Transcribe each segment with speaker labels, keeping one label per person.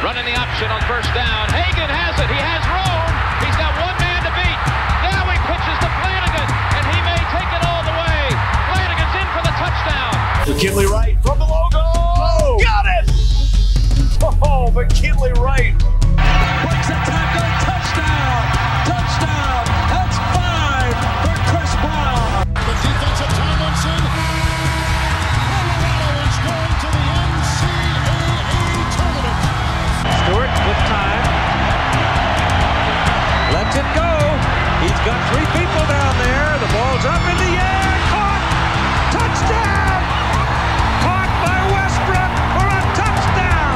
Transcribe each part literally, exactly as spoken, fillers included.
Speaker 1: Running the option on first down. Hagan has it. He has room. He's got one man to beat. Now he pitches to Flanagan, and he may take it all the way. Flanagan's in for the touchdown.
Speaker 2: McKinley Wright from the logo. Oh, got it! Oh, McKinley Wright.
Speaker 3: Breaks a tackle. Touchdown. Touchdown. That's five for Chris Brown.
Speaker 4: The defense of Tomlinson. Colorado is going to the N C double A tournament.
Speaker 3: Stewart with time. Lets it go. He's got three people down there. The ball's up in the air. Caught. Touchdown. Caught by Westbrook for a touchdown.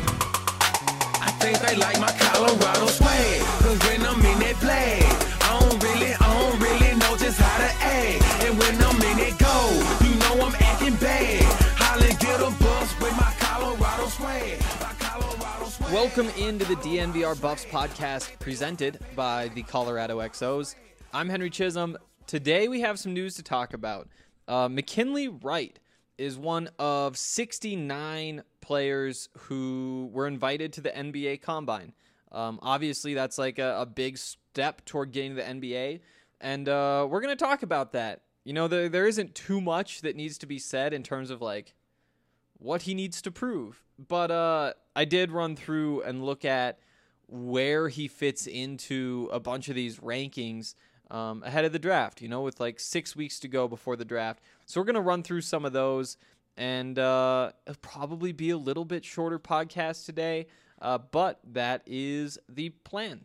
Speaker 5: I think they like my Colorado swag. Cause when I'm in that play, I don't really, I don't really know just how to act. And when I'm in it go, you know I'm acting bad. Holly get a bus with my Colorado swag. My Colorado swag.
Speaker 6: Welcome into the D N V R Buffs podcast presented by the Colorado X Os. I'm Henry Chisholm. Today we have some news to talk about. Uh, McKinley Wright is one of sixty-nine players who were invited to the N B A Combine. Um, obviously, that's like a, a big step toward getting to the N B A, and uh, we're going to talk about that. You know, there there isn't too much that needs to be said in terms of like what he needs to prove, but uh, I did run through and look at where he fits into a bunch of these rankings um, ahead of the draft, you know, with like six weeks to go before the draft. So we're going to run through some of those, and uh, it'll probably be a little bit shorter podcast today, uh, but that is the plan.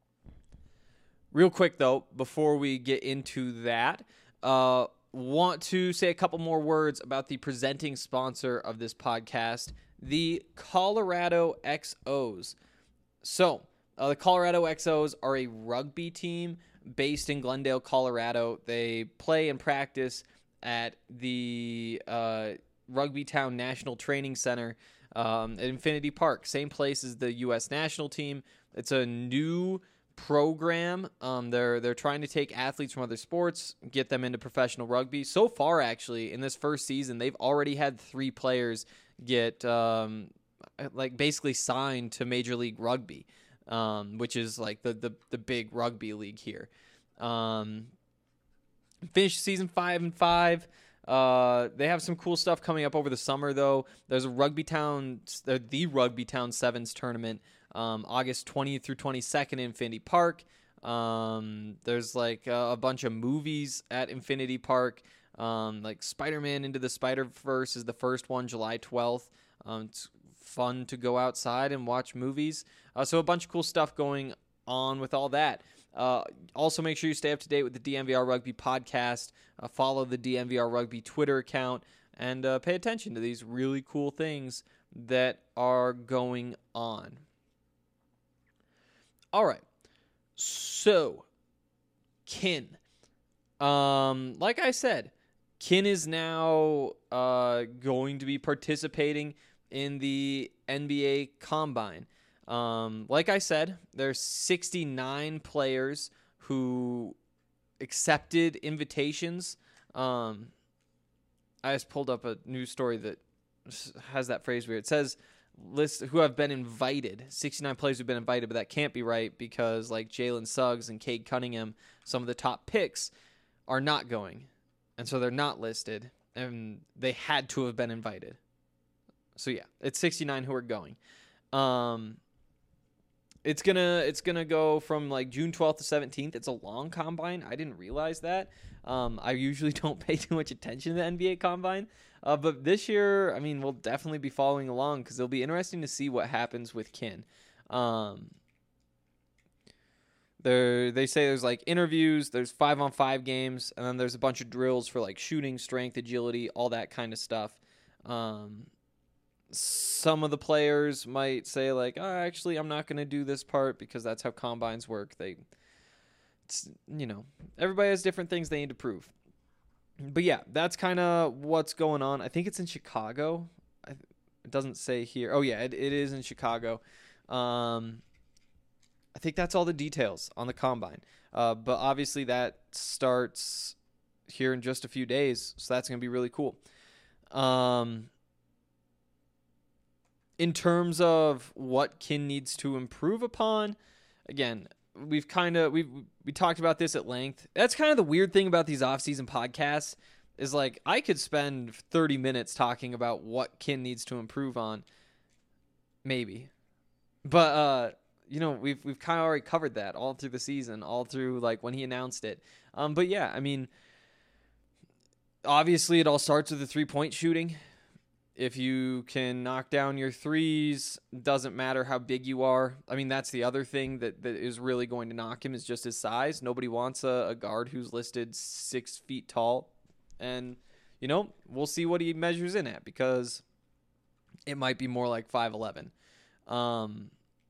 Speaker 6: Real quick, though, before we get into that, uh, want to say a couple more words about the presenting sponsor of this podcast, the Colorado X Os. So, uh, the Colorado X Os are a rugby team based in Glendale, Colorado. They play and practice at the uh, Rugby Town National Training Center um, at Infinity Park, same place as the U S national team. It's a new program. Um, they're they're trying to take athletes from other sports, get them into professional rugby. So far, actually, in this first season, they've already had three players get um, like basically signed to Major League Rugby, um, which is like the, the the big rugby league here. Um, finished season five and five. Uh, they have some cool stuff coming up over the summer, though. There's a Rugby Town, the Rugby Town Sevens tournament, um, August twentieth through twenty-second in Infinity Park. Um, there's like a, a bunch of movies at Infinity Park. Um, like Spider-Man Into the Spider-Verse is the first one, July twelfth. Um, it's fun to go outside and watch movies. Uh, so a bunch of cool stuff going on with all that. Uh, also, make sure you stay up to date with the D N V R Rugby podcast. Uh, follow the D N V R Rugby Twitter account, and uh, pay attention to these really cool things that are going on. All right. So, Kin. Um, like I said, Kin is now uh, going to be participating in the N B A Combine. Um, like I said, there's sixty-nine players who accepted invitations. Um, I just pulled up a news story that has that phrase where it says list who have been invited. sixty-nine players who've been invited, but that can't be right because like Jalen Suggs and Cade Cunningham, some of the top picks, are not going. And so they're not listed, and they had to have been invited. So yeah, it's sixty-nine who are going. Um, it's gonna it's gonna go from like June twelfth to seventeenth. It's a long combine. I didn't realize that. Um, I usually don't pay too much attention to the N B A Combine, uh, but this year, I mean, we'll definitely be following along because it'll be interesting to see what happens with Kin. Um, There, they say there's like interviews, there's five on five games, and then there's a bunch of drills for like shooting, strength, agility, all that kind of stuff. Um, some of the players might say like, oh, actually, I'm not going to do this part because that's how combines work. They, it's, you know, everybody has different things they need to prove. But yeah, that's kind of what's going on. I think it's in Chicago. I, it doesn't say here. Oh yeah, it, it is in Chicago. Um, I think that's all the details on the combine. Uh, but obviously that starts here in just a few days, so that's going to be really cool. Um, in terms of what Kin needs to improve upon, again, we've kind of we've we talked about this at length. That's kind of the weird thing about these off-season podcasts is like I could spend thirty minutes talking about what Kin needs to improve on, maybe, but uh, you know we've we've kind of already covered that all through the season, all through like when he announced it. Um, but yeah, I mean, obviously it all starts with the three-point shooting. If you can knock down your threes, doesn't matter how big you are. I mean, that's the other thing that, that is really going to knock him is just his size. Nobody wants a, a guard who's listed six feet tall. And, you know, we'll see what he measures in at because it might be more like five eleven. Um,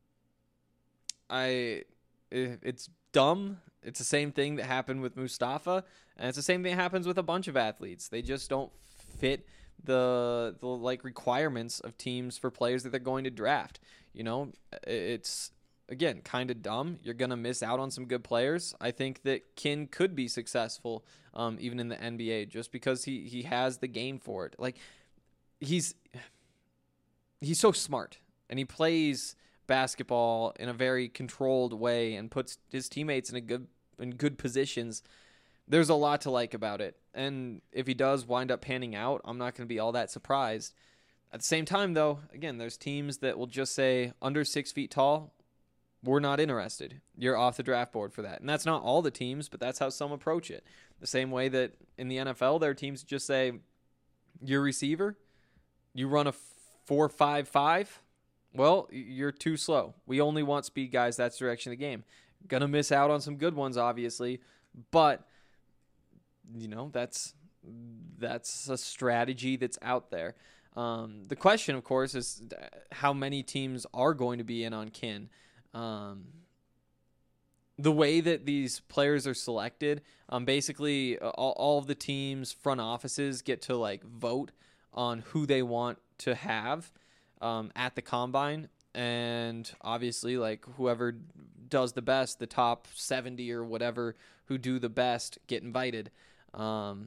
Speaker 6: I, it's dumb. It's the same thing that happened with Mustafa, and it's the same thing that happens with a bunch of athletes. They just don't fit the the like requirements of teams for players that they're going to draft. You know, it's again kind of dumb. You're gonna miss out on some good players. I think that Kin could be successful, um, even in the N B A, just because he he has the game for it. Like he's he's so smart, and he plays basketball in a very controlled way and puts his teammates in a good in good positions. There's a lot to like about it. And if he does wind up panning out, I'm not going to be all that surprised. At the same time, though, again, there's teams that will just say, under six feet tall, we're not interested. You're off the draft board for that. And that's not all the teams, but that's how some approach it. The same way that in the N F L, there are teams that just say, you're a receiver, you run a four five five, well, you're too slow. We only want speed guys. That's the direction of the game. Going to miss out on some good ones, obviously, but you know, that's that's a strategy that's out there. Um, the question, of course, is how many teams are going to be in on Kin. Um, the way that these players are selected, um, basically all, all of the teams' front offices get to like vote on who they want to have um, at the combine. And obviously, like whoever does the best, the top seventy or whatever who do the best get invited. Um,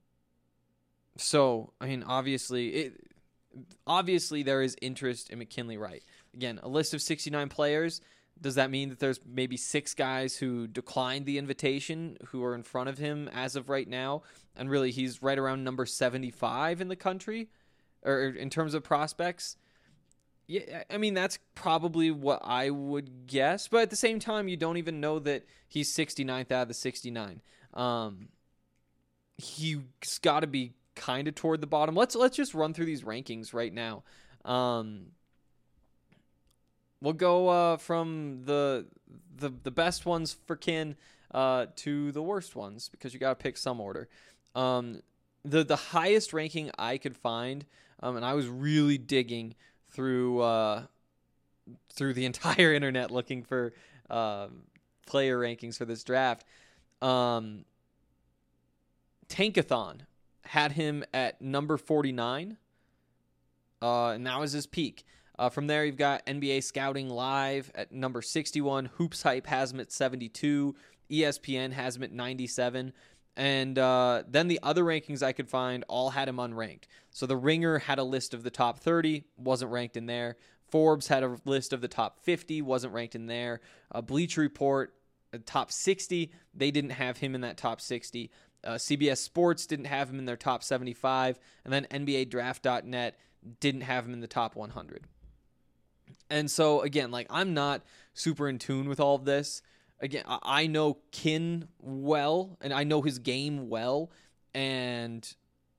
Speaker 6: so, I mean, obviously, it, obviously there is interest in McKinley Wright. Again, a list of sixty-nine players. Does that mean that there's maybe six guys who declined the invitation who are in front of him as of right now? And really, he's right around number seventy-five in the country, or in terms of prospects. Yeah, I mean, that's probably what I would guess. But at the same time, you don't even know that he's sixty-ninth out of the sixty-nine. Um, he's got to be kind of toward the bottom. Let's let's just run through these rankings right now. Um, we'll go uh, from the, the the best ones for Kin uh, to the worst ones because you got to pick some order. Um, the the highest ranking I could find, um, and I was really digging through uh, through the entire internet looking for uh, player rankings for this draft. Um, Tankathon had him at number forty-nine, uh, and that was his peak. Uh, from there, you've got N B A Scouting Live at number sixty-one. Hoops Hype has him at seventy-two. E S P N has him at ninety-seven. And uh, then the other rankings I could find all had him unranked. So The Ringer had a list of the top thirty, wasn't ranked in there. Forbes had a list of the top fifty, wasn't ranked in there. Uh, Bleacher Report, uh, top sixty, they didn't have him in that top sixty. Uh, C B S Sports didn't have him in their top seventy-five. And then N B A Draft dot net didn't have him in the top one hundred. And so, again, like I'm not super in tune with all of this. Again, I know Kin well, and I know his game well, and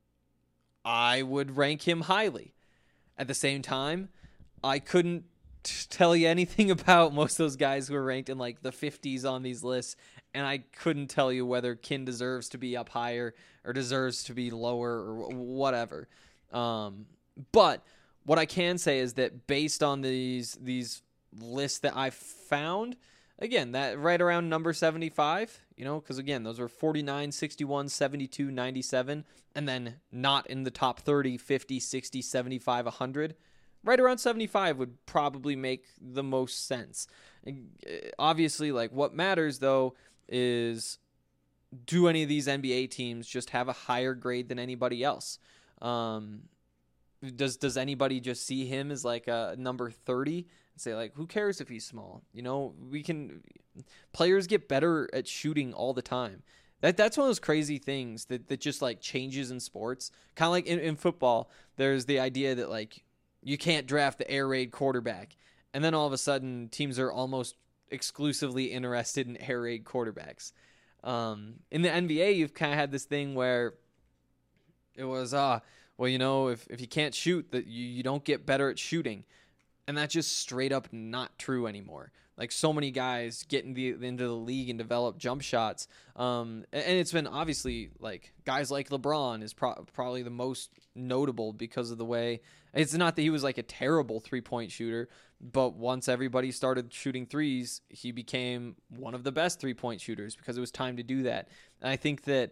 Speaker 6: I would rank him highly. At the same time, I couldn't t- tell you anything about most of those guys who are ranked in like the fifties on these lists, and I couldn't tell you whether Kin deserves to be up higher or deserves to be lower or whatever. Um, but what I can say is that based on these these lists that I've found, again, that right around number seventy-five, you know, because again, those were forty-nine, sixty-one, seventy-two, ninety-seven, and then not in the top thirty, fifty, sixty, seventy-five, one hundred. Right around seventy-five would probably make the most sense. Obviously, like what matters though is do any of these N B A teams just have a higher grade than anybody else? Um, does does anybody just see him as like a number thirty and say like, who cares if he's small? You know, we can players get better at shooting all the time. That that's one of those crazy things that, that just like changes in sports. Kind of like in, in football, there's the idea that like you can't draft the air raid quarterback, and then all of a sudden teams are almost exclusively interested in air raid quarterbacks. Um, in the N B A, you've kind of had this thing where it was uh well, you know, if, if you can't shoot, that you, you don't get better at shooting. And that's just straight up not true anymore. Like so many guys get in the, into the league and develop jump shots. Um, and it's been obviously like guys like LeBron is pro- probably the most notable because of the way it's not that he was like a terrible three point shooter, but once everybody started shooting threes, he became one of the best three point shooters because it was time to do that. And I think that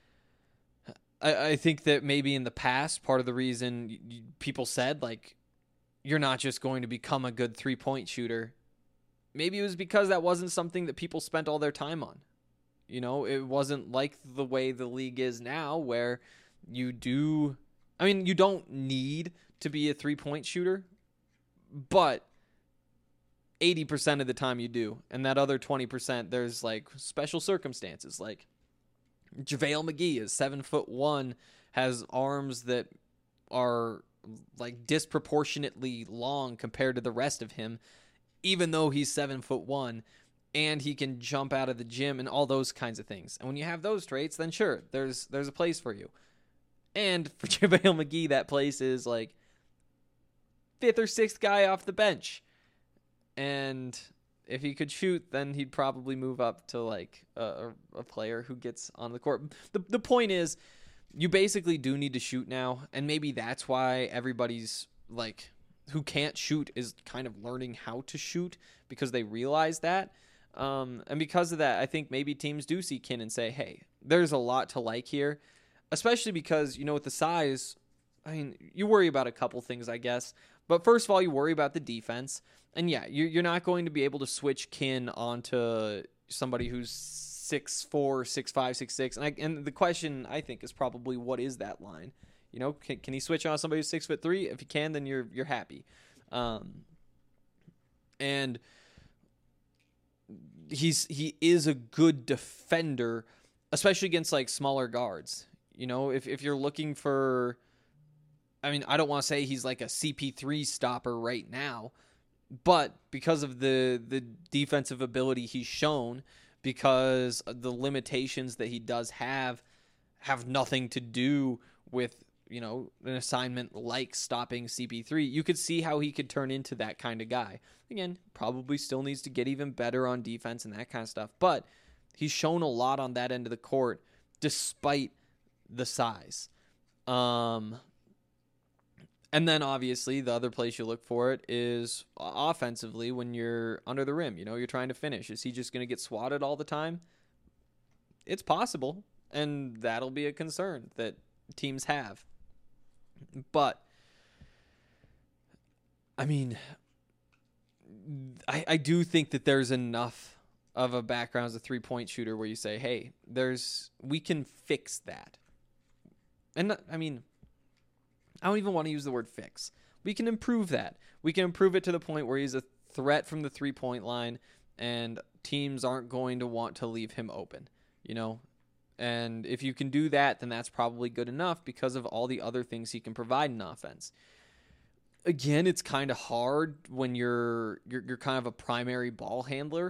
Speaker 6: I, I think that maybe in the past, part of the reason you, you, people said, like, you're not just going to become a good three-point shooter, maybe it was because that wasn't something that people spent all their time on. You know, it wasn't like the way the league is now where you do... I mean, you don't need to be a three-point shooter, but eighty percent of the time you do. And that other twenty percent, there's, like, special circumstances, like... JaVale McGee is seven foot one, has arms that are like disproportionately long compared to the rest of him, even though he's seven foot one, and he can jump out of the gym and all those kinds of things. And when you have those traits, then sure, there's there's a place for you. And for JaVale McGee, that place is like fifth or sixth guy off the bench. And if he could shoot, then he'd probably move up to like a, a player who gets on the court. The the point is, you basically do need to shoot now, and maybe that's why everybody's like who can't shoot is kind of learning how to shoot because they realize that. Um, and because of that, I think maybe teams do see Kin and say, hey, there's a lot to like here, especially because, you know, with the size, I mean, you worry about a couple things, I guess. But first of all, you worry about the defense. And yeah, you're not going to be able to switch Kin onto somebody who's six four, six five, six six. And, I, and the question, I think, is probably what is that line? You know, can, can he switch on somebody who's six foot three? If he can, then you're you're happy. Um, and he's he is a good defender, especially against like smaller guards. You know, if if you're looking for, I mean, I don't want to say he's like a C P three stopper right now, but because of the the defensive ability he's shown, because the limitations that he does have have nothing to do with, you know, an assignment like stopping C P three, you could see how he could turn into that kind of guy. Again, probably still needs to get even better on defense and that kind of stuff, but he's shown a lot on that end of the court despite the size. Um, and then obviously the other place you look for it is offensively when you're under the rim. You know, you're trying to finish. Is he just going to get swatted all the time? It's possible, and that'll be a concern that teams have. But, I mean, I, I do think that there's enough of a background as a three-point shooter where you say, hey, there's we can fix that. And, I mean, I don't even want to use the word fix. We can improve that. We can improve it to the point where he's a threat from the three-point line, and teams aren't going to want to leave him open, you know? And if you can do that, then that's probably good enough because of all the other things he can provide in offense. Again, it's kind of hard when you're, you're you're kind of a primary ball handler.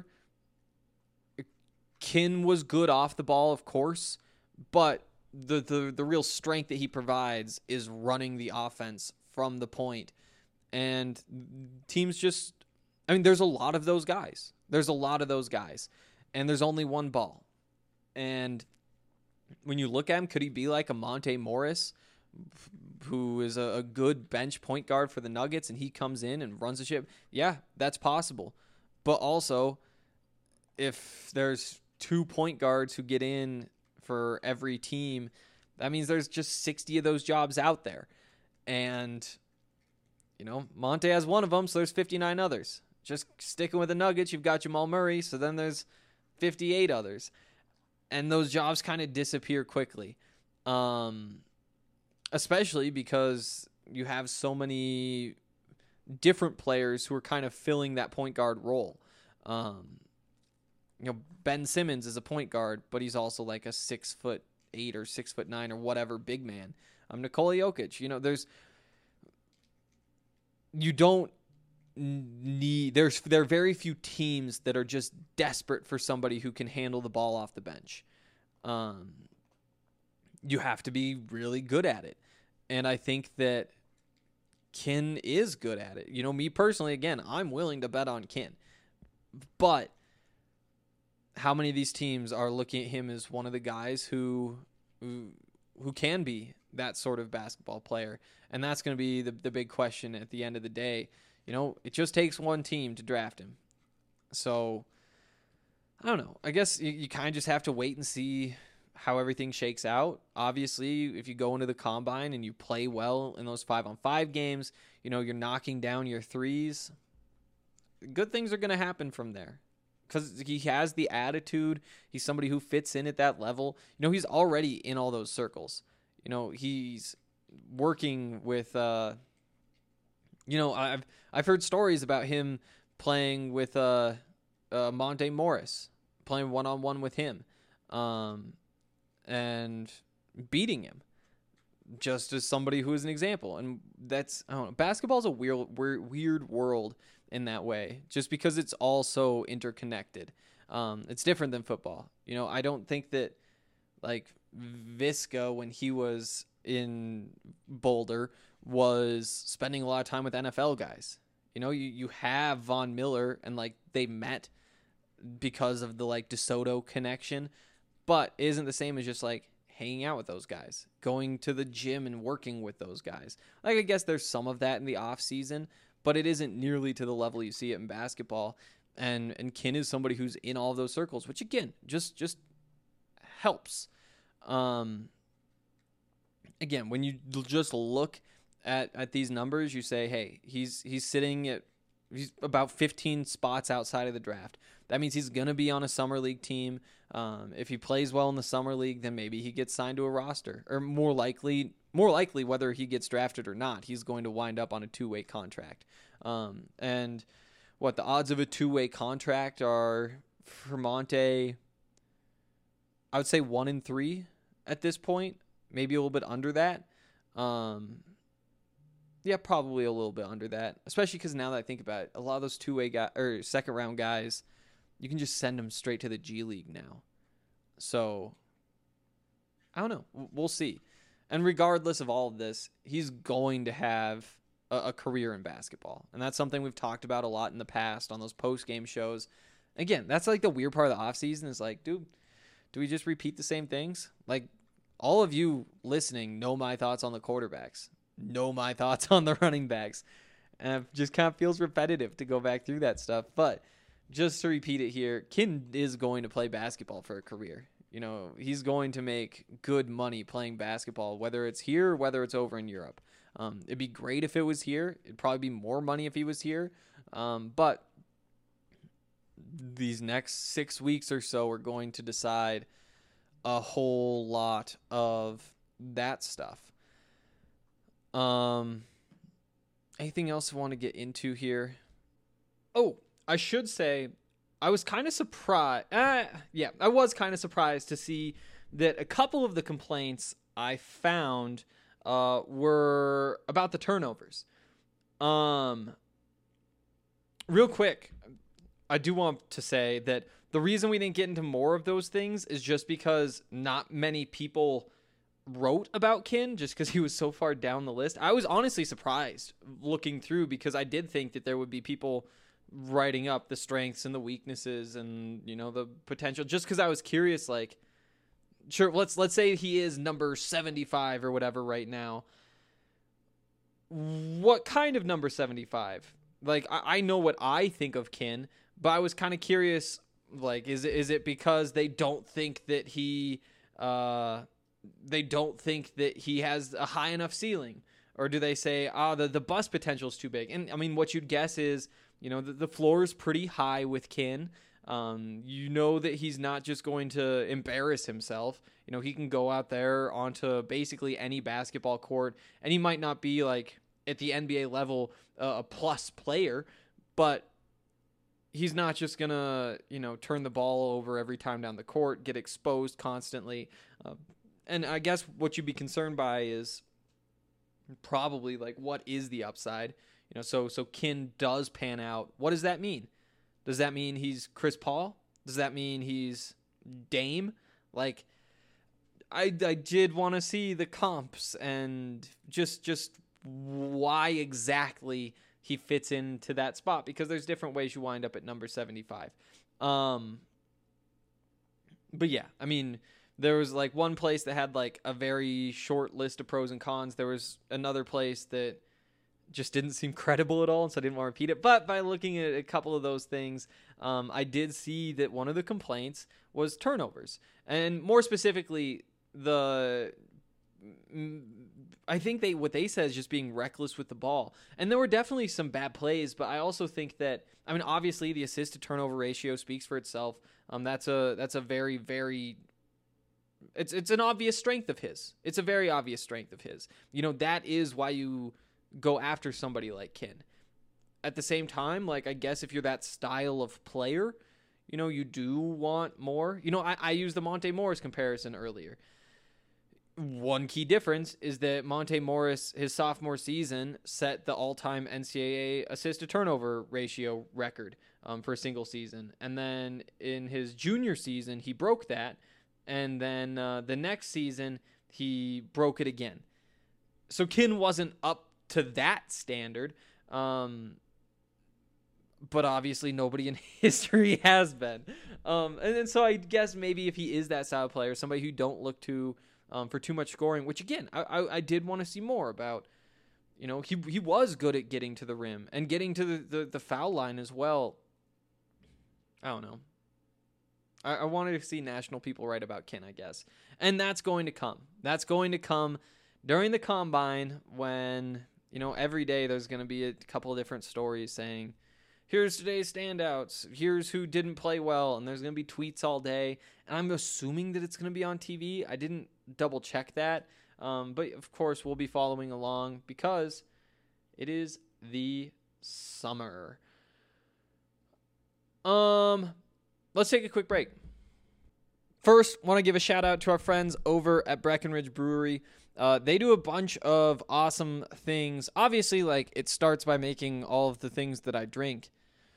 Speaker 6: Kin was good off the ball, of course, but the, the, the real strength that he provides is running the offense from the point. And teams just, I mean, there's a lot of those guys. There's a lot of those guys. And there's only one ball. And when you look at him, could he be like a Monte Morris, who is a, a good bench point guard for the Nuggets, and he comes in and runs the ship? Yeah, that's possible. But also, if there's two point guards who get in for every team, that means there's just sixty of those jobs out there. And, you know, Monte has one of them, so there's fifty-nine others. Just sticking with the Nuggets, you've got Jamal Murray, so then there's fifty-eight others. And those jobs kind of disappear quickly. Um, especially because you have so many different players who are kind of filling that point guard role. Um, you know, Ben Simmons is a point guard, but he's also like a six foot eight or six foot nine or whatever big man. Um, Nikola Jokic, you know, there's, you don't need, there's, there are very few teams that are just desperate for somebody who can handle the ball off the bench. Um, you have to be really good at it. And I think that Ken is good at it. You know, me personally, again, I'm willing to bet on Ken. But how many of these teams are looking at him as one of the guys who who, who can be that sort of basketball player? And that's going to be the, the big question at the end of the day. You know, it just takes one team to draft him. So, I don't know. I guess you, you kind of just have to wait and see how everything shakes out. Obviously, if you go into the combine and you play well in those five on five games, you know, you're knocking down your threes, good things are going to happen from there. Because he has the attitude. He's somebody who fits in at that level. You know, he's already in all those circles. You know, he's working with, uh, you know, I've I've heard stories about him playing with uh, uh, Monte Morris, playing one-on-one with him, um, and beating him, just as somebody who is an example. And that's, I don't know, basketball's a weird, weird, weird world in that way, just because it's all so interconnected. Um, it's different than football. You know, I don't think that, like, Visca, when he was in Boulder, was spending a lot of time with N F L guys. You know, you, you have Von Miller, and, like, they met because of the, like, DeSoto connection, but it isn't the same as just, like, hanging out with those guys, going to the gym and working with those guys. Like, I guess there's some of that in the off season, but it isn't nearly to the level you see it in basketball. And and Ken is somebody who's in all of those circles, which again just just helps. Um, again, when you just look at at these numbers, you say, hey, he's he's sitting at he's about fifteen spots outside of the draft. That means he's gonna be on a summer league team. Um, if he plays well in the summer league, then maybe he gets signed to a roster, or more likely. More likely, whether he gets drafted or not, he's going to wind up on a two-way contract. Um, and what the odds of a two-way contract are for Monte, I would say one in three at this point, maybe a little bit under that. Um, yeah, probably a little bit under that, especially because now that I think about it, a lot of those two-way guys or second-round guys, you can just send them straight to the G League now. So I don't know. We'll see. And regardless of all of this, he's going to have a, a career in basketball. And that's something we've talked about a lot in the past on those post-game shows. Again, that's like the weird part of the offseason is like, dude, do we just repeat the same things? Like, all of you listening know my thoughts on the quarterbacks, know my thoughts on the running backs. And it just kind of feels repetitive to go back through that stuff. But just to repeat it here, Ken is going to play basketball for a career. You know, he's going to make good money playing basketball, whether it's here or whether it's over in Europe. Um, it'd be great if it was here. It'd probably be more money if he was here. Um, but these next six weeks or so are going to decide a whole lot of that stuff. Um, anything else I want to get into here? Oh, I should say, I was kind of surprised. Uh, yeah, I was kind of surprised to see that a couple of the complaints I found uh, were about the turnovers. Um, real quick, I do want to say that the reason we didn't get into more of those things is just because not many people wrote about Ken, just because he was so far down the list. I was honestly surprised looking through, because I did think that there would be people writing up the strengths and the weaknesses and, you know, the potential, just because I was curious, like, sure, let's let's say he is number seventy-five or whatever right now. What kind of number seventy-five? Like, I, I know what I think of Ken, but I was kind of curious, like, is it, is it because they don't think that he uh they don't think that he has a high enough ceiling? Or do they say, ah, oh, the, the bust potential is too big? And, I mean, what you'd guess is, you know, the, the floor is pretty high with Ken. Um, you know that he's not just going to embarrass himself. You know, he can go out there onto basically any basketball court, and he might not be, like, at the N B A level uh, a plus player, but he's not just going to, you know, turn the ball over every time down the court, get exposed constantly. Uh, and I guess what you'd be concerned by is probably like, what is the upside? You know, so so Kin does pan out. What does that mean? Does that mean he's Chris Paul? Does that mean he's Dame? Like, I, I did want to see the comps and just just why exactly he fits into that spot, because there's different ways you wind up at number seventy-five. Um, but yeah, I mean, there was like one place that had like a very short list of pros and cons. There was another place that just didn't seem credible at all, and so I didn't want to repeat it. But by looking at a couple of those things, um, I did see that one of the complaints was turnovers, and more specifically, the I think they what they said is just being reckless with the ball. And there were definitely some bad plays, but I also think that, I mean, obviously the assist to turnover ratio speaks for itself. Um, that's a that's a very very it's it's an obvious strength of his. It's a very obvious strength of his. You know, that is why you go after somebody like Kin. At the same time, like, I guess if you're that style of player, you know, you do want more. You know, I, I used the Monte Morris comparison earlier. One key difference is that Monte Morris, his sophomore season, set the all-time N C double A assist-to-turnover ratio record um, for a single season. And then in his junior season, he broke that. And then uh, the next season, he broke it again. So Kin wasn't up to that standard. Um, but obviously nobody in history has been. Um, and, and so I guess maybe if he is that style player, somebody who don't look to... Um, for too much scoring, which again, I, I, I did want to see more about. You know, he he was good at getting to the rim and getting to the, the, the foul line as well. I don't know. I, I wanted to see national people write about Kin, I guess. And that's going to come. That's going to come during the combine when, you know, every day there's going to be a couple of different stories saying, here's today's standouts, here's who didn't play well, and there's going to be tweets all day. And I'm assuming that it's going to be on T V. I didn't double check that. Um, but of course, we'll be following along because it is the summer. Um, let's take a quick break. First, want to give a shout out to our friends over at Breckenridge Brewery. Uh, they do a bunch of awesome things. Obviously, like, it starts by making all of the things that I drink.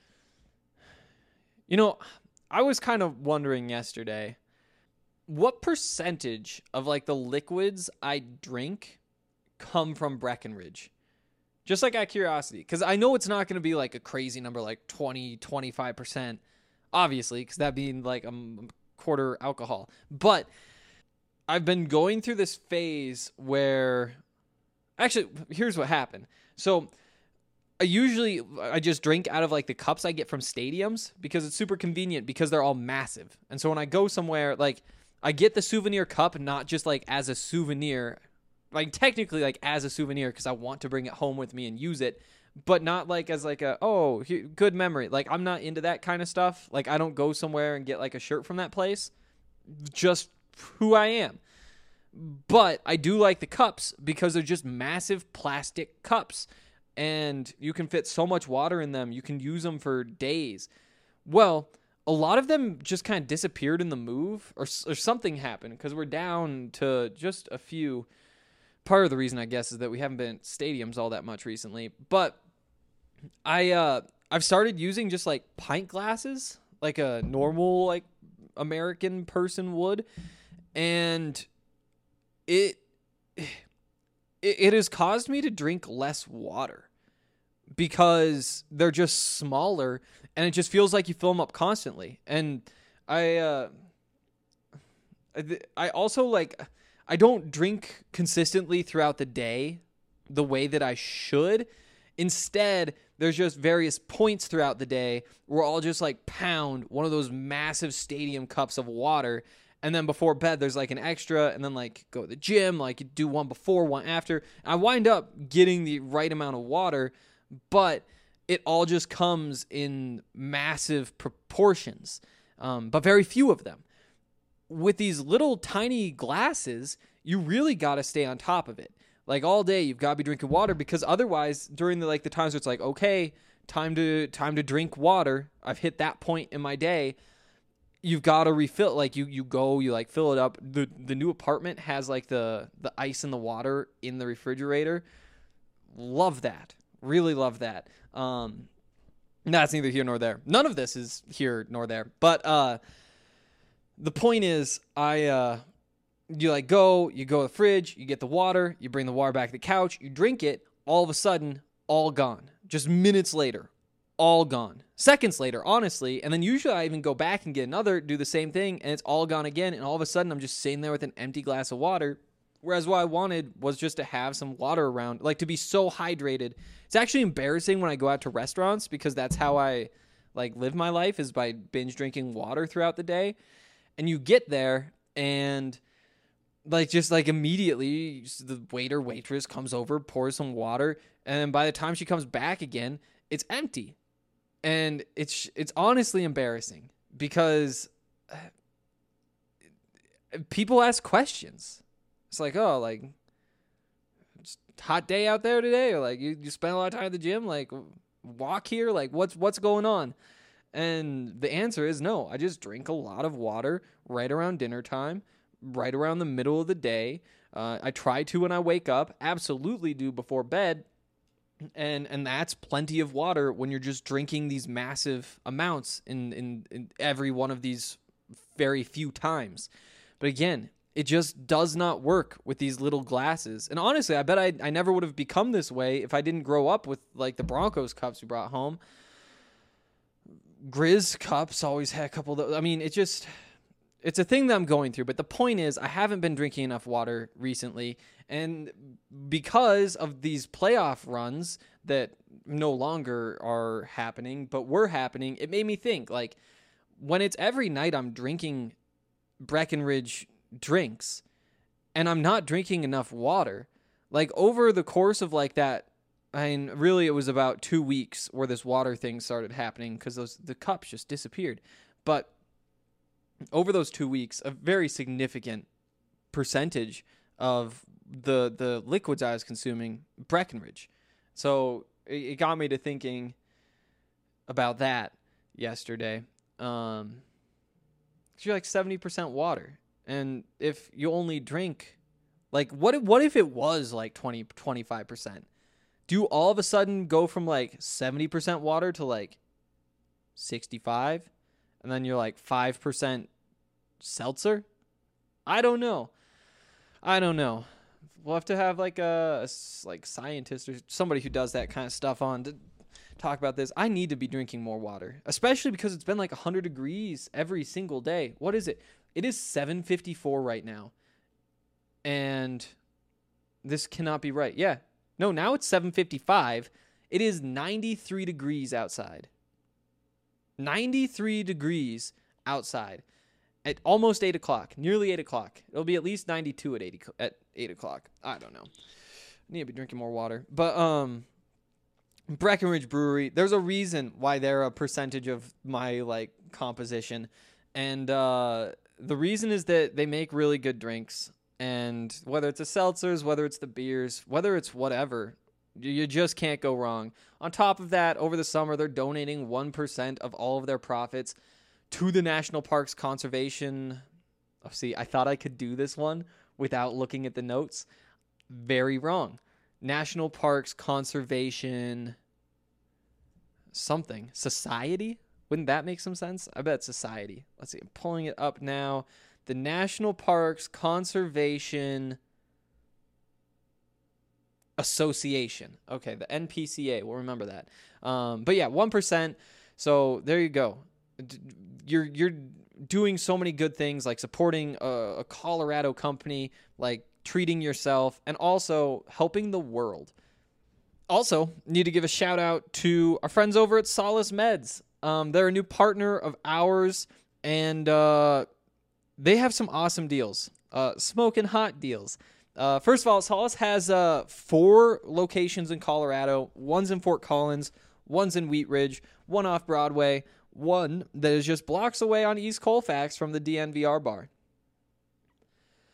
Speaker 6: You know, I was kind of wondering yesterday, what percentage of, like, the liquids I drink come from Breckenridge? Just, like, out of curiosity. Because I know it's not going to be, like, a crazy number, like twenty, twenty-five percent, obviously, because that'd be, like, a quarter alcohol. But I've been going through this phase where... Actually, here's what happened. So... I usually, I just drink out of, like, the cups I get from stadiums because it's super convenient because they're all massive. And so when I go somewhere, like, I get the souvenir cup, not just, like, as a souvenir, like, technically, like, as a souvenir because I want to bring it home with me and use it, but not, like, as, like, a, oh, here, good memory. Like, I'm not into that kind of stuff. Like, I don't go somewhere and get, like, a shirt from that place. Just who I am. But I do like the cups because they're just massive plastic cups. And you can fit so much water in them. You can use them for days. Well, a lot of them just kind of disappeared in the move, or, or something happened, because we're down to just a few. Part of the reason, I guess, is that we haven't been at stadiums all that much recently. But I, uh, I've started using just, like, pint glasses, like a normal, like, American person would. And it... it has caused me to drink less water because they're just smaller and it just feels like you fill them up constantly. And I, uh, I also, like, I don't drink consistently throughout the day the way that I should. Instead, there's just various points throughout the day where I'll just, like, pound one of those massive stadium cups of water. And then before bed, there's, like, an extra, and then, like, go to the gym, like, do one before, one after. I wind up getting the right amount of water, but it all just comes in massive proportions, um, but very few of them. With these little tiny glasses, you really got to stay on top of it. Like all day, you've got to be drinking water because otherwise, during the like the times where it's like, okay, time to time to drink water. I've hit that point in my day. You've got to refill. Like you, you go, you like fill it up. The the new apartment has like the the ice and the water in the refrigerator. Love that. Really love that. Um, that's neither here nor there. None of this is here nor there. But uh, the point is, I. Uh, You like go, you go to the fridge, you get the water, you bring the water back to the couch, you drink it, all of a sudden, all gone. Just minutes later, all gone. Seconds later, honestly, and then usually I even go back and get another, do the same thing, and it's all gone again, and all of a sudden I'm just sitting there with an empty glass of water, whereas what I wanted was just to have some water around, like to be so hydrated. It's actually embarrassing when I go out to restaurants because that's how I like live my life is by binge drinking water throughout the day, and you get there and like, just like immediately, the waiter, waitress comes over, pours some water, and then by the time she comes back again, it's empty. And it's it's honestly embarrassing because people ask questions. It's like, oh, like, it's a hot day out there today? Or like, you, you spend a lot of time at the gym? Like, walk here? Like, what's what's going on? And the answer is no. I just drink a lot of water right around dinner time. Right around the middle of the day. Uh, I try to when I wake up, absolutely do before bed. And and that's plenty of water when you're just drinking these massive amounts in, in, in every one of these very few times. But again, it just does not work with these little glasses. And honestly, I bet I, I never would have become this way if I didn't grow up with like the Broncos cups we brought home. Grizz cups always had a couple of those. I mean, it just... It's a thing that I'm going through, but the point is I haven't been drinking enough water recently, and because of these playoff runs that no longer are happening, but were happening, it made me think, like, when it's every night I'm drinking Breckenridge drinks, and I'm not drinking enough water, like, over the course of, like, that, I mean, really it was about two weeks where this water thing started happening, because those the cups just disappeared, but over those two weeks, a very significant percentage of the the liquids I was consuming, Breckenridge. So it, it got me to thinking about that yesterday. Um, 'cause you're like seventy percent water. And if you only drink, like, what if, what if it was like twenty, twenty-five percent? Do you all of a sudden go from like seventy percent water to like sixty-five? And then you're like five percent seltzer? I don't know. I don't know. We'll have to have like a, a like scientist or somebody who does that kind of stuff on to talk about this. I need to be drinking more water, especially because it's been like one hundred degrees every single day. What is it? It is seven fifty-four right now. And this cannot be right. Yeah. No, now it's seven fifty-five. It is ninety-three degrees outside. ninety-three degrees outside at almost eight o'clock, nearly eight o'clock. It'll be at least ninety-two at eight at eight o'clock. I don't know. I need to be drinking more water. But um, Breckenridge Brewery, there's a reason why they're a percentage of my like composition, and uh, the reason is that they make really good drinks. And whether it's the seltzers, whether it's the beers, whether it's whatever, you just can't go wrong. On top of that, over the summer, they're donating one percent of all of their profits to the National Parks Conservation. Oh, see, I thought I could do this one without looking at the notes. Very wrong. National Parks Conservation something. Society? Wouldn't that make some sense? I bet society. Let's see. I'm pulling it up now. The National Parks Conservation Association. Okay, the N P C A. We'll remember that. Um, but yeah, one percent. So there you go. You're you're doing so many good things, like supporting a, a Colorado company, like treating yourself, and also helping the world. Also, need to give a shout out to our friends over at Solace Meds. Um, they're a new partner of ours, and uh, they have some awesome deals, uh, smoking hot deals. Uh, first of all, Solace has uh, four locations in Colorado. One's in Fort Collins, one's in Wheat Ridge, one off Broadway, one that is just blocks away on East Colfax from the D N V R bar.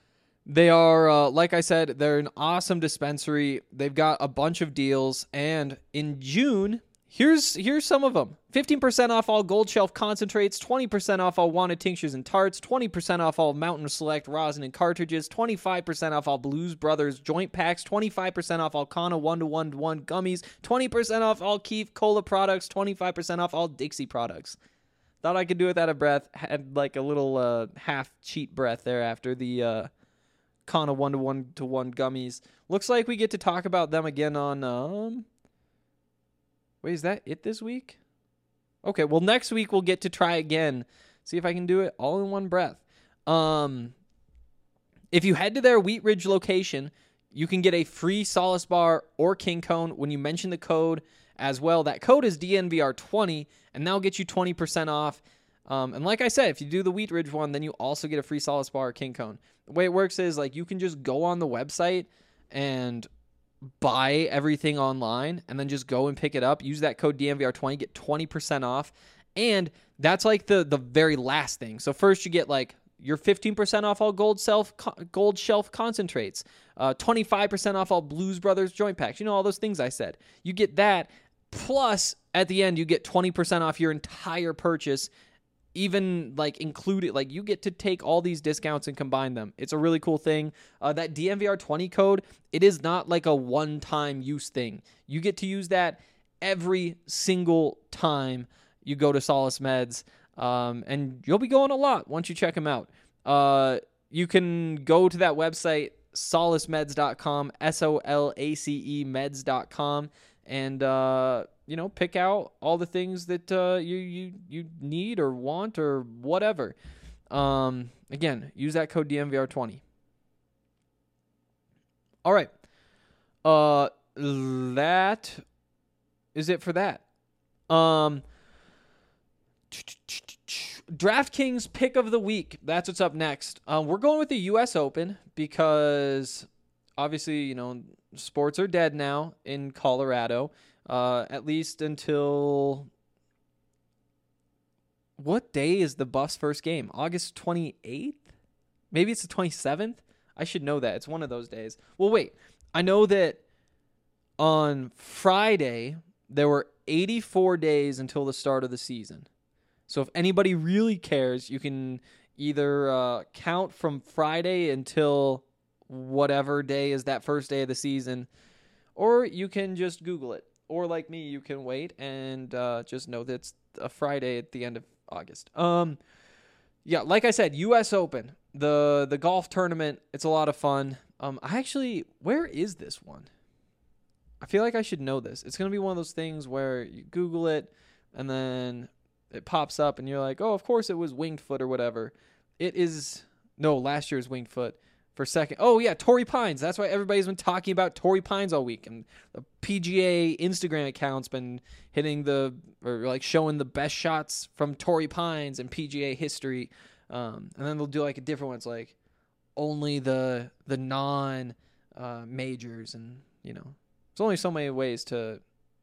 Speaker 6: They are, uh, like I said, they're an awesome dispensary. They've got a bunch of deals, and in June, here's here's some of them. fifteen percent off all Gold Shelf concentrates, twenty percent off all Wanted tinctures and tarts, twenty percent off all Mountain Select rosin and cartridges, twenty-five percent off all Blues Brothers joint packs, twenty-five percent off all Kana one to one to one gummies, twenty percent off all Keef Cola products, twenty-five percent off all Dixie products. Thought I could do without a breath. Had like a little uh, half cheat breath there after the uh, Kana one to one to one gummies. Looks like we get to talk about them again on... Um... Wait, is that it this week? Okay, well, next week we'll get to try again. See if I can do it all in one breath. Um, if you head to their Wheat Ridge location, you can get a free Solace Bar or King Cone when you mention the code as well. That code is D N V R twenty, and that'll get you twenty percent off. Um, and like I said, if you do the Wheat Ridge one, then you also get a free Solace Bar or King Cone. The way it works is like you can just go on the website and buy everything online and then just go and pick it up. Use that code D N V R twenty, get twenty percent off. And that's like the the very last thing. So first you get like your fifteen percent off all Gold Shelf Gold Shelf concentrates, uh, twenty-five percent off all Blues Brothers joint packs. You know, all those things I said. You get that, plus at the end you get twenty percent off your entire purchase. Even like included, like you get to take all these discounts and combine them. It's a really cool thing. Uh, that D N V R twenty code, it is not like a one-time use thing. You get to use that every single time you go to Solace Meds, um, and you'll be going a lot once you check them out. Uh, you can go to that website, solace meds dot com, S O L A C E meds dot com, and uh, you know, pick out all the things that uh, you you you need or want or whatever. Um, again, use that code D N V R twenty. All right. Uh, that is it for that. Um, DraftKings pick of the week. That's what's up next. Um, we're going with the U S Open because obviously, you know, sports are dead now in Colorado. Uh, at least until... What day is the Buffs' first game? August twenty-eighth? Maybe it's the twenty-seventh? I should know that. It's one of those days. Well, wait. I know that on Friday, there were eighty-four days until the start of the season. So if anybody really cares, you can either uh, count from Friday until whatever day is that first day of the season, or you can just Google it. Or like me, you can wait and uh, just know that it's a Friday at the end of August. Um, yeah, like I said, U S Open, the the golf tournament. It's a lot of fun. Um, I actually, where is this one? I feel like I should know this. It's gonna be one of those things where you Google it and then it pops up and you're like, oh, of course it was Winged Foot or whatever. It is no last year's Winged Foot. For second, oh yeah, Torrey Pines. That's why everybody's been talking about Torrey Pines all week, and the P G A Instagram account's been hitting the or like showing the best shots from Torrey Pines and P G A history. Um, and then they'll do like a different one. It's like only the the non uh, majors, and you know, there's only so many ways to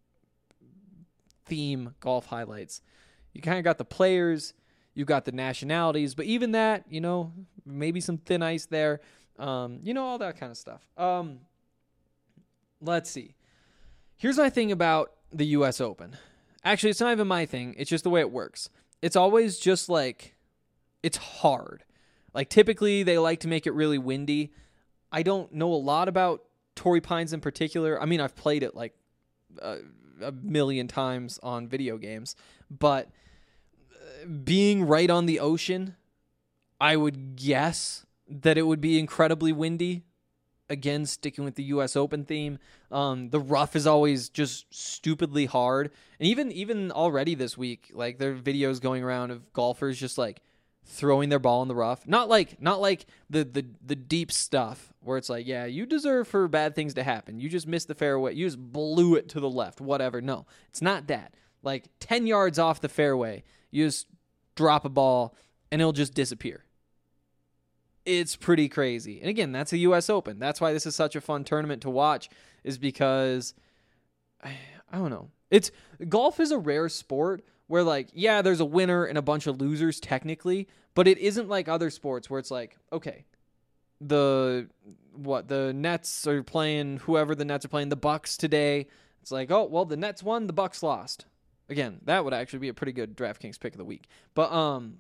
Speaker 6: theme golf highlights. You kind of got the players, you got the nationalities, but even that, you know, maybe some thin ice there. Um, you know, all that kind of stuff. Um, let's see. Here's my thing about the U S Open. Actually, it's not even my thing. It's just the way it works. It's always just like, it's hard. Like, typically, they like to make it really windy. I don't know a lot about Torrey Pines in particular. I mean, I've played it like a, a million times on video games. But being right on the ocean, I would guess that it would be incredibly windy. Again, sticking with the U S Open theme. Um, the rough is always just stupidly hard. And even even already this week, like there are videos going around of golfers just like throwing their ball in the rough. Not like not like the the, the deep stuff where it's like, yeah, you deserve for bad things to happen. You just missed the fairway. You just blew it to the left, whatever. No, it's not that. Like ten yards off the fairway, you just drop a ball and it'll just disappear. It's pretty crazy. And again, that's a U S Open. That's why this is such a fun tournament to watch, is because, I, I don't know. It's golf is a rare sport where, like, yeah, there's a winner and a bunch of losers technically, but it isn't like other sports where it's like, okay, the what the Nets are playing, whoever the Nets are playing, the Bucks today. It's like, oh, well, the Nets won, the Bucks lost. Again, that would actually be a pretty good DraftKings pick of the week. But um,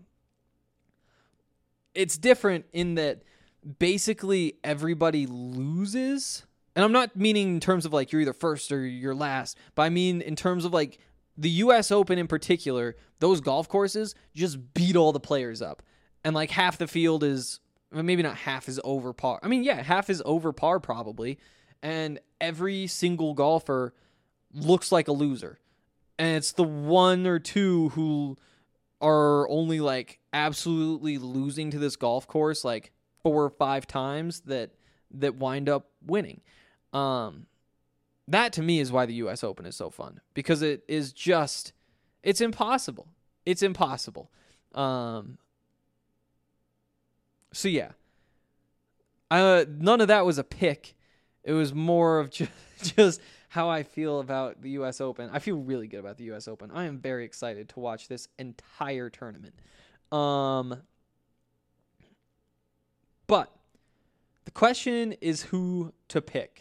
Speaker 6: it's different in that basically everybody loses. And I'm not meaning in terms of like you're either first or you're last, but I mean in terms of like the U S Open in particular, those golf courses just beat all the players up. And like half the field is, well, maybe not half is over par. I mean, yeah, half is over par probably. And every single golfer looks like a loser. And it's the one or two who are only like absolutely losing to this golf course like four or five times that that wind up winning. Um, that to me is why the U S Open is so fun, because it is just, it's impossible. It's impossible. Um, so yeah, uh, none of that was a pick. It was more of just, just how I feel about the U S Open. I feel really good about the U S Open. I am very excited to watch this entire tournament. Um, but the question is who to pick.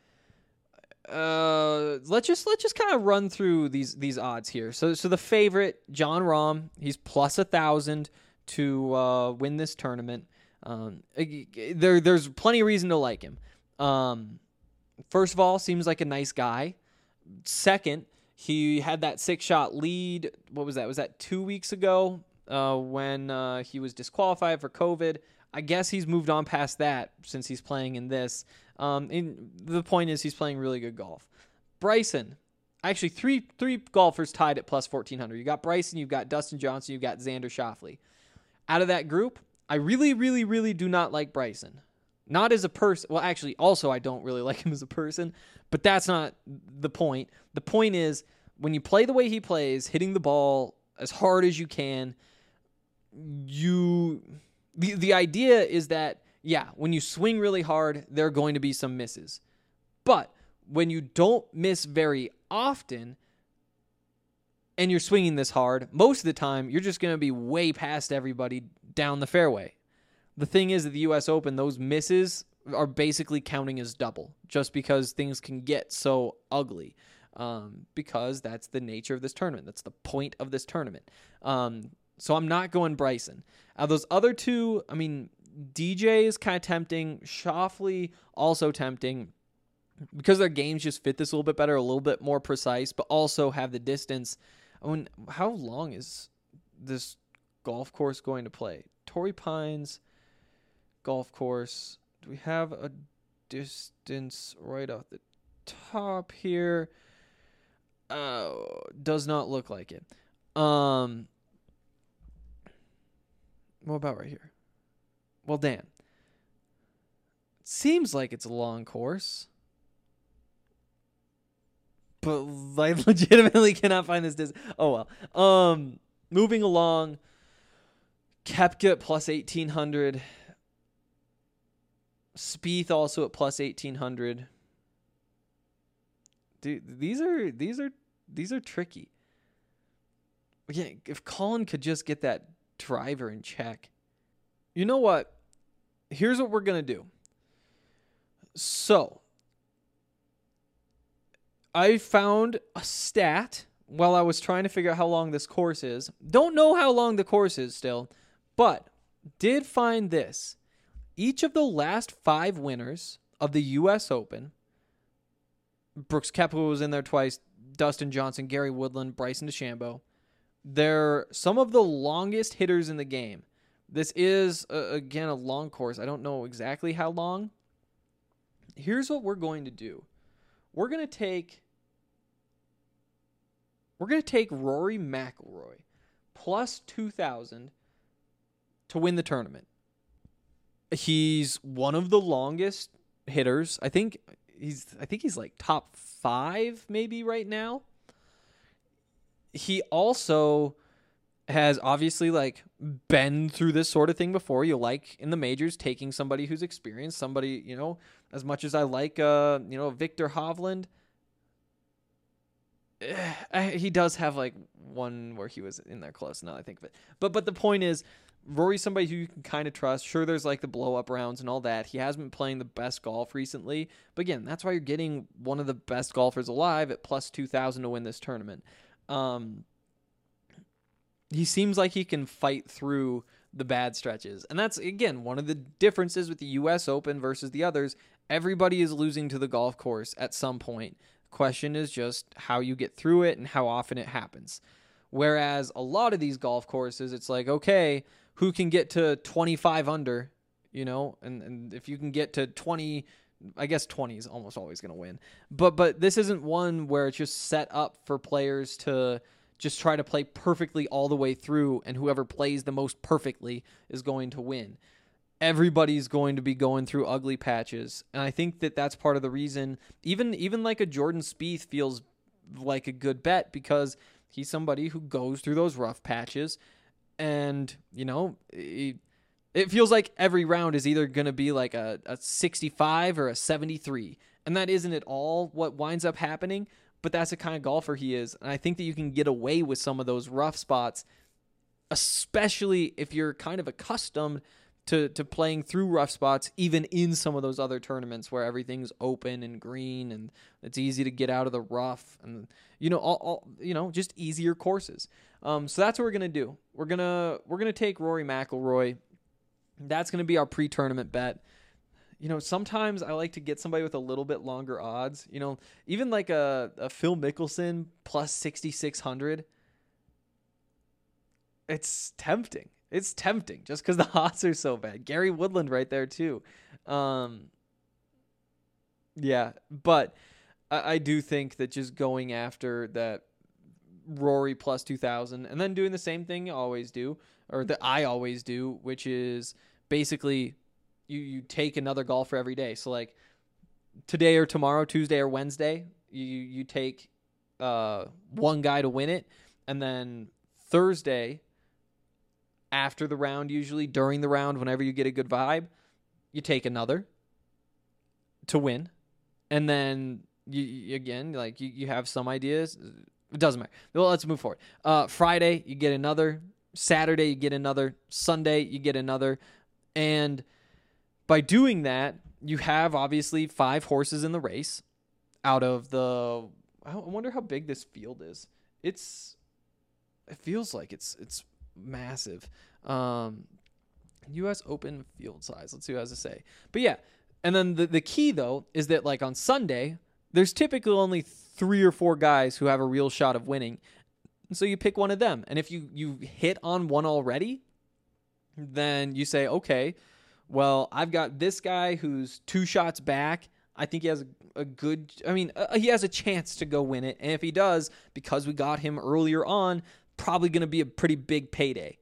Speaker 6: Uh, let's just let's just kind of run through these these odds here. So so the favorite, Jon Rahm, he's plus a thousand to uh, win this tournament. Um, there there's plenty of reason to like him. Um, first of all, seems like a nice guy. Second, he had that six shot lead. What was that? Was that two weeks ago? Uh, when uh, he was disqualified for COVID. I guess he's moved on past that since he's playing in this. Um, and the point is he's playing really good golf. Bryson, actually three three golfers tied at plus fourteen hundred. You got Bryson, you've got Dustin Johnson, you've got Xander Schauffele. Out of that group, I really, really, really do not like Bryson. Not as a person. Well, actually, also I don't really like him as a person, but that's not the point. The point is when you play the way he plays, hitting the ball as hard as you can, you... The the idea is that, yeah, when you swing really hard, there are going to be some misses. But when you don't miss very often and you're swinging this hard, most of the time, you're just going to be way past everybody down the fairway. The thing is, at the U S Open, those misses are basically counting as double just because things can get so ugly. Um, because that's the nature of this tournament. That's the point of this tournament. Um So I'm not going Bryson. Out of those other two, I mean, D J is kind of tempting. Schauffele also tempting because their games just fit this a little bit better, a little bit more precise, but also have the distance. I mean, how long is this golf course going to play? Torrey Pines golf course. Do we have a distance right off the top here? Uh, does not look like it. Um... What about right here? Well, damn. It seems like it's a long course. But I legitimately cannot find this distance. Oh, well. Um, moving along. Koepka at plus eighteen hundred. Spieth also at plus eighteen hundred. Dude, these are, these are, these are tricky. Again, if Colin could just get that driver in check. You know what? Here's what we're going to do. So, I found a stat while I was trying to figure out how long this course is. Don't know how long the course is still, but did find this. Each of the last five winners of the U S Open, Brooks Koepka was in there twice, Dustin Johnson, Gary Woodland, Bryson DeChambeau, they're some of the longest hitters in the game. This is, uh, again, a long course. I don't know exactly how long. Here's what we're going to do. We're going to take we're going to take Rory McIlroy plus two thousand to win the tournament. He's one of the longest hitters. I think he's I think he's like top five maybe right now. He also has obviously like been through this sort of thing before. You like in the majors taking somebody who's experienced, somebody, you know, as much as I like, uh, you know, Victor Hovland, uh, he does have like one where he was in there close. Now that I think of it, but but the point is, Rory's somebody who you can kind of trust. Sure, there's like the blow up rounds and all that. He has been playing the best golf recently, but again, that's why you're getting one of the best golfers alive at plus two thousand to win this tournament. Um, he seems like he can fight through the bad stretches, and that's again one of the differences with the U S Open versus the others. Everybody is losing to the golf course at some point. The question is just how you get through it and how often it happens. Whereas a lot of these golf courses, it's like, okay, who can get to twenty-five under, you know, and, and if you can get to twenty, I guess twenty is almost always going to win. But but this isn't one where it's just set up for players to just try to play perfectly all the way through, and whoever plays the most perfectly is going to win. Everybody's going to be going through ugly patches, and I think that that's part of the reason even even like a Jordan Spieth feels like a good bet, because he's somebody who goes through those rough patches, and you know it, it feels like every round is either going to be like a, a sixty-five or a seventy-three, and that isn't at all what winds up happening, but that's the kind of golfer he is, and I think that you can get away with some of those rough spots, especially if you're kind of accustomed to to playing through rough spots, even in some of those other tournaments where everything's open and green and it's easy to get out of the rough, and you know all, all you know just easier courses. Um, so that's what we're gonna do. We're gonna we're gonna take Rory McIlroy. That's gonna be our pre-tournament bet. You know, sometimes I like to get somebody with a little bit longer odds. You know, even like a, a Phil Mickelson plus sixty-six hundred. It's tempting. It's tempting just because the odds are so bad. Gary Woodland right there too. Um, yeah, but I, I do think that just going after that Rory plus two thousand and then doing the same thing you always do, or that I always do, which is basically you, you take another golfer every day. So like today or tomorrow, Tuesday or Wednesday, you, you take uh, one guy to win it, and then Thursday, after the round, usually during the round, whenever you get a good vibe, you take another to win. And then you, you again, like you, you have some ideas. It doesn't matter. Well, let's move forward. Uh, Friday, you get another. Saturday, you get another. Sunday, you get another. And by doing that, you have obviously five horses in the race out of the, I wonder how big this field is. It's, it feels like it's, it's, massive. um U S Open field size, let's see what it has to say. But yeah, and then the, the key though is that like on Sunday there's typically only three or four guys who have a real shot of winning, and so you pick one of them, and if you you hit on one already, then you say, okay, well, I've got this guy who's two shots back. I think he has a, a good, I mean, uh, he has a chance to go win it, and if he does, because we got him earlier on, probably going to be a pretty big payday.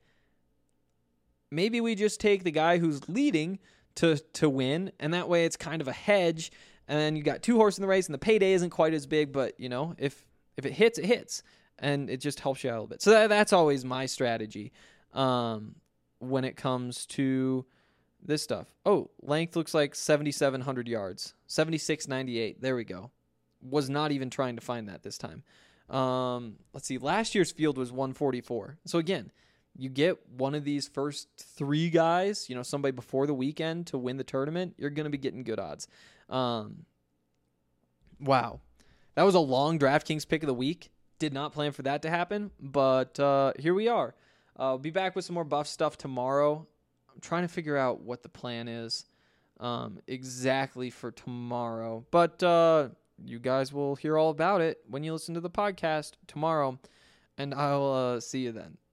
Speaker 6: Maybe we just take the guy who's leading to to win, and that way it's kind of a hedge, and then you got two horses in the race, and the payday isn't quite as big, but, you know, if if it hits, it hits, and it just helps you out a little bit. So that, that's always my strategy um, when it comes to this stuff. Oh, length looks like seventy-seven hundred yards. seventy-six ninety-eight. There we go. Was not even trying to find that this time. Um, let's see. Last year's field was one forty-four. So again, you get one of these first three guys, you know, somebody before the weekend to win the tournament, you're going to be getting good odds. Um, wow. That was a long DraftKings pick of the week. Did not plan for that to happen, but uh, here we are. Uh, I'll be back with some more buff stuff tomorrow. I'm trying to figure out what the plan is um, exactly for tomorrow, but uh, you guys will hear all about it when you listen to the podcast tomorrow, and I'll uh, see you then.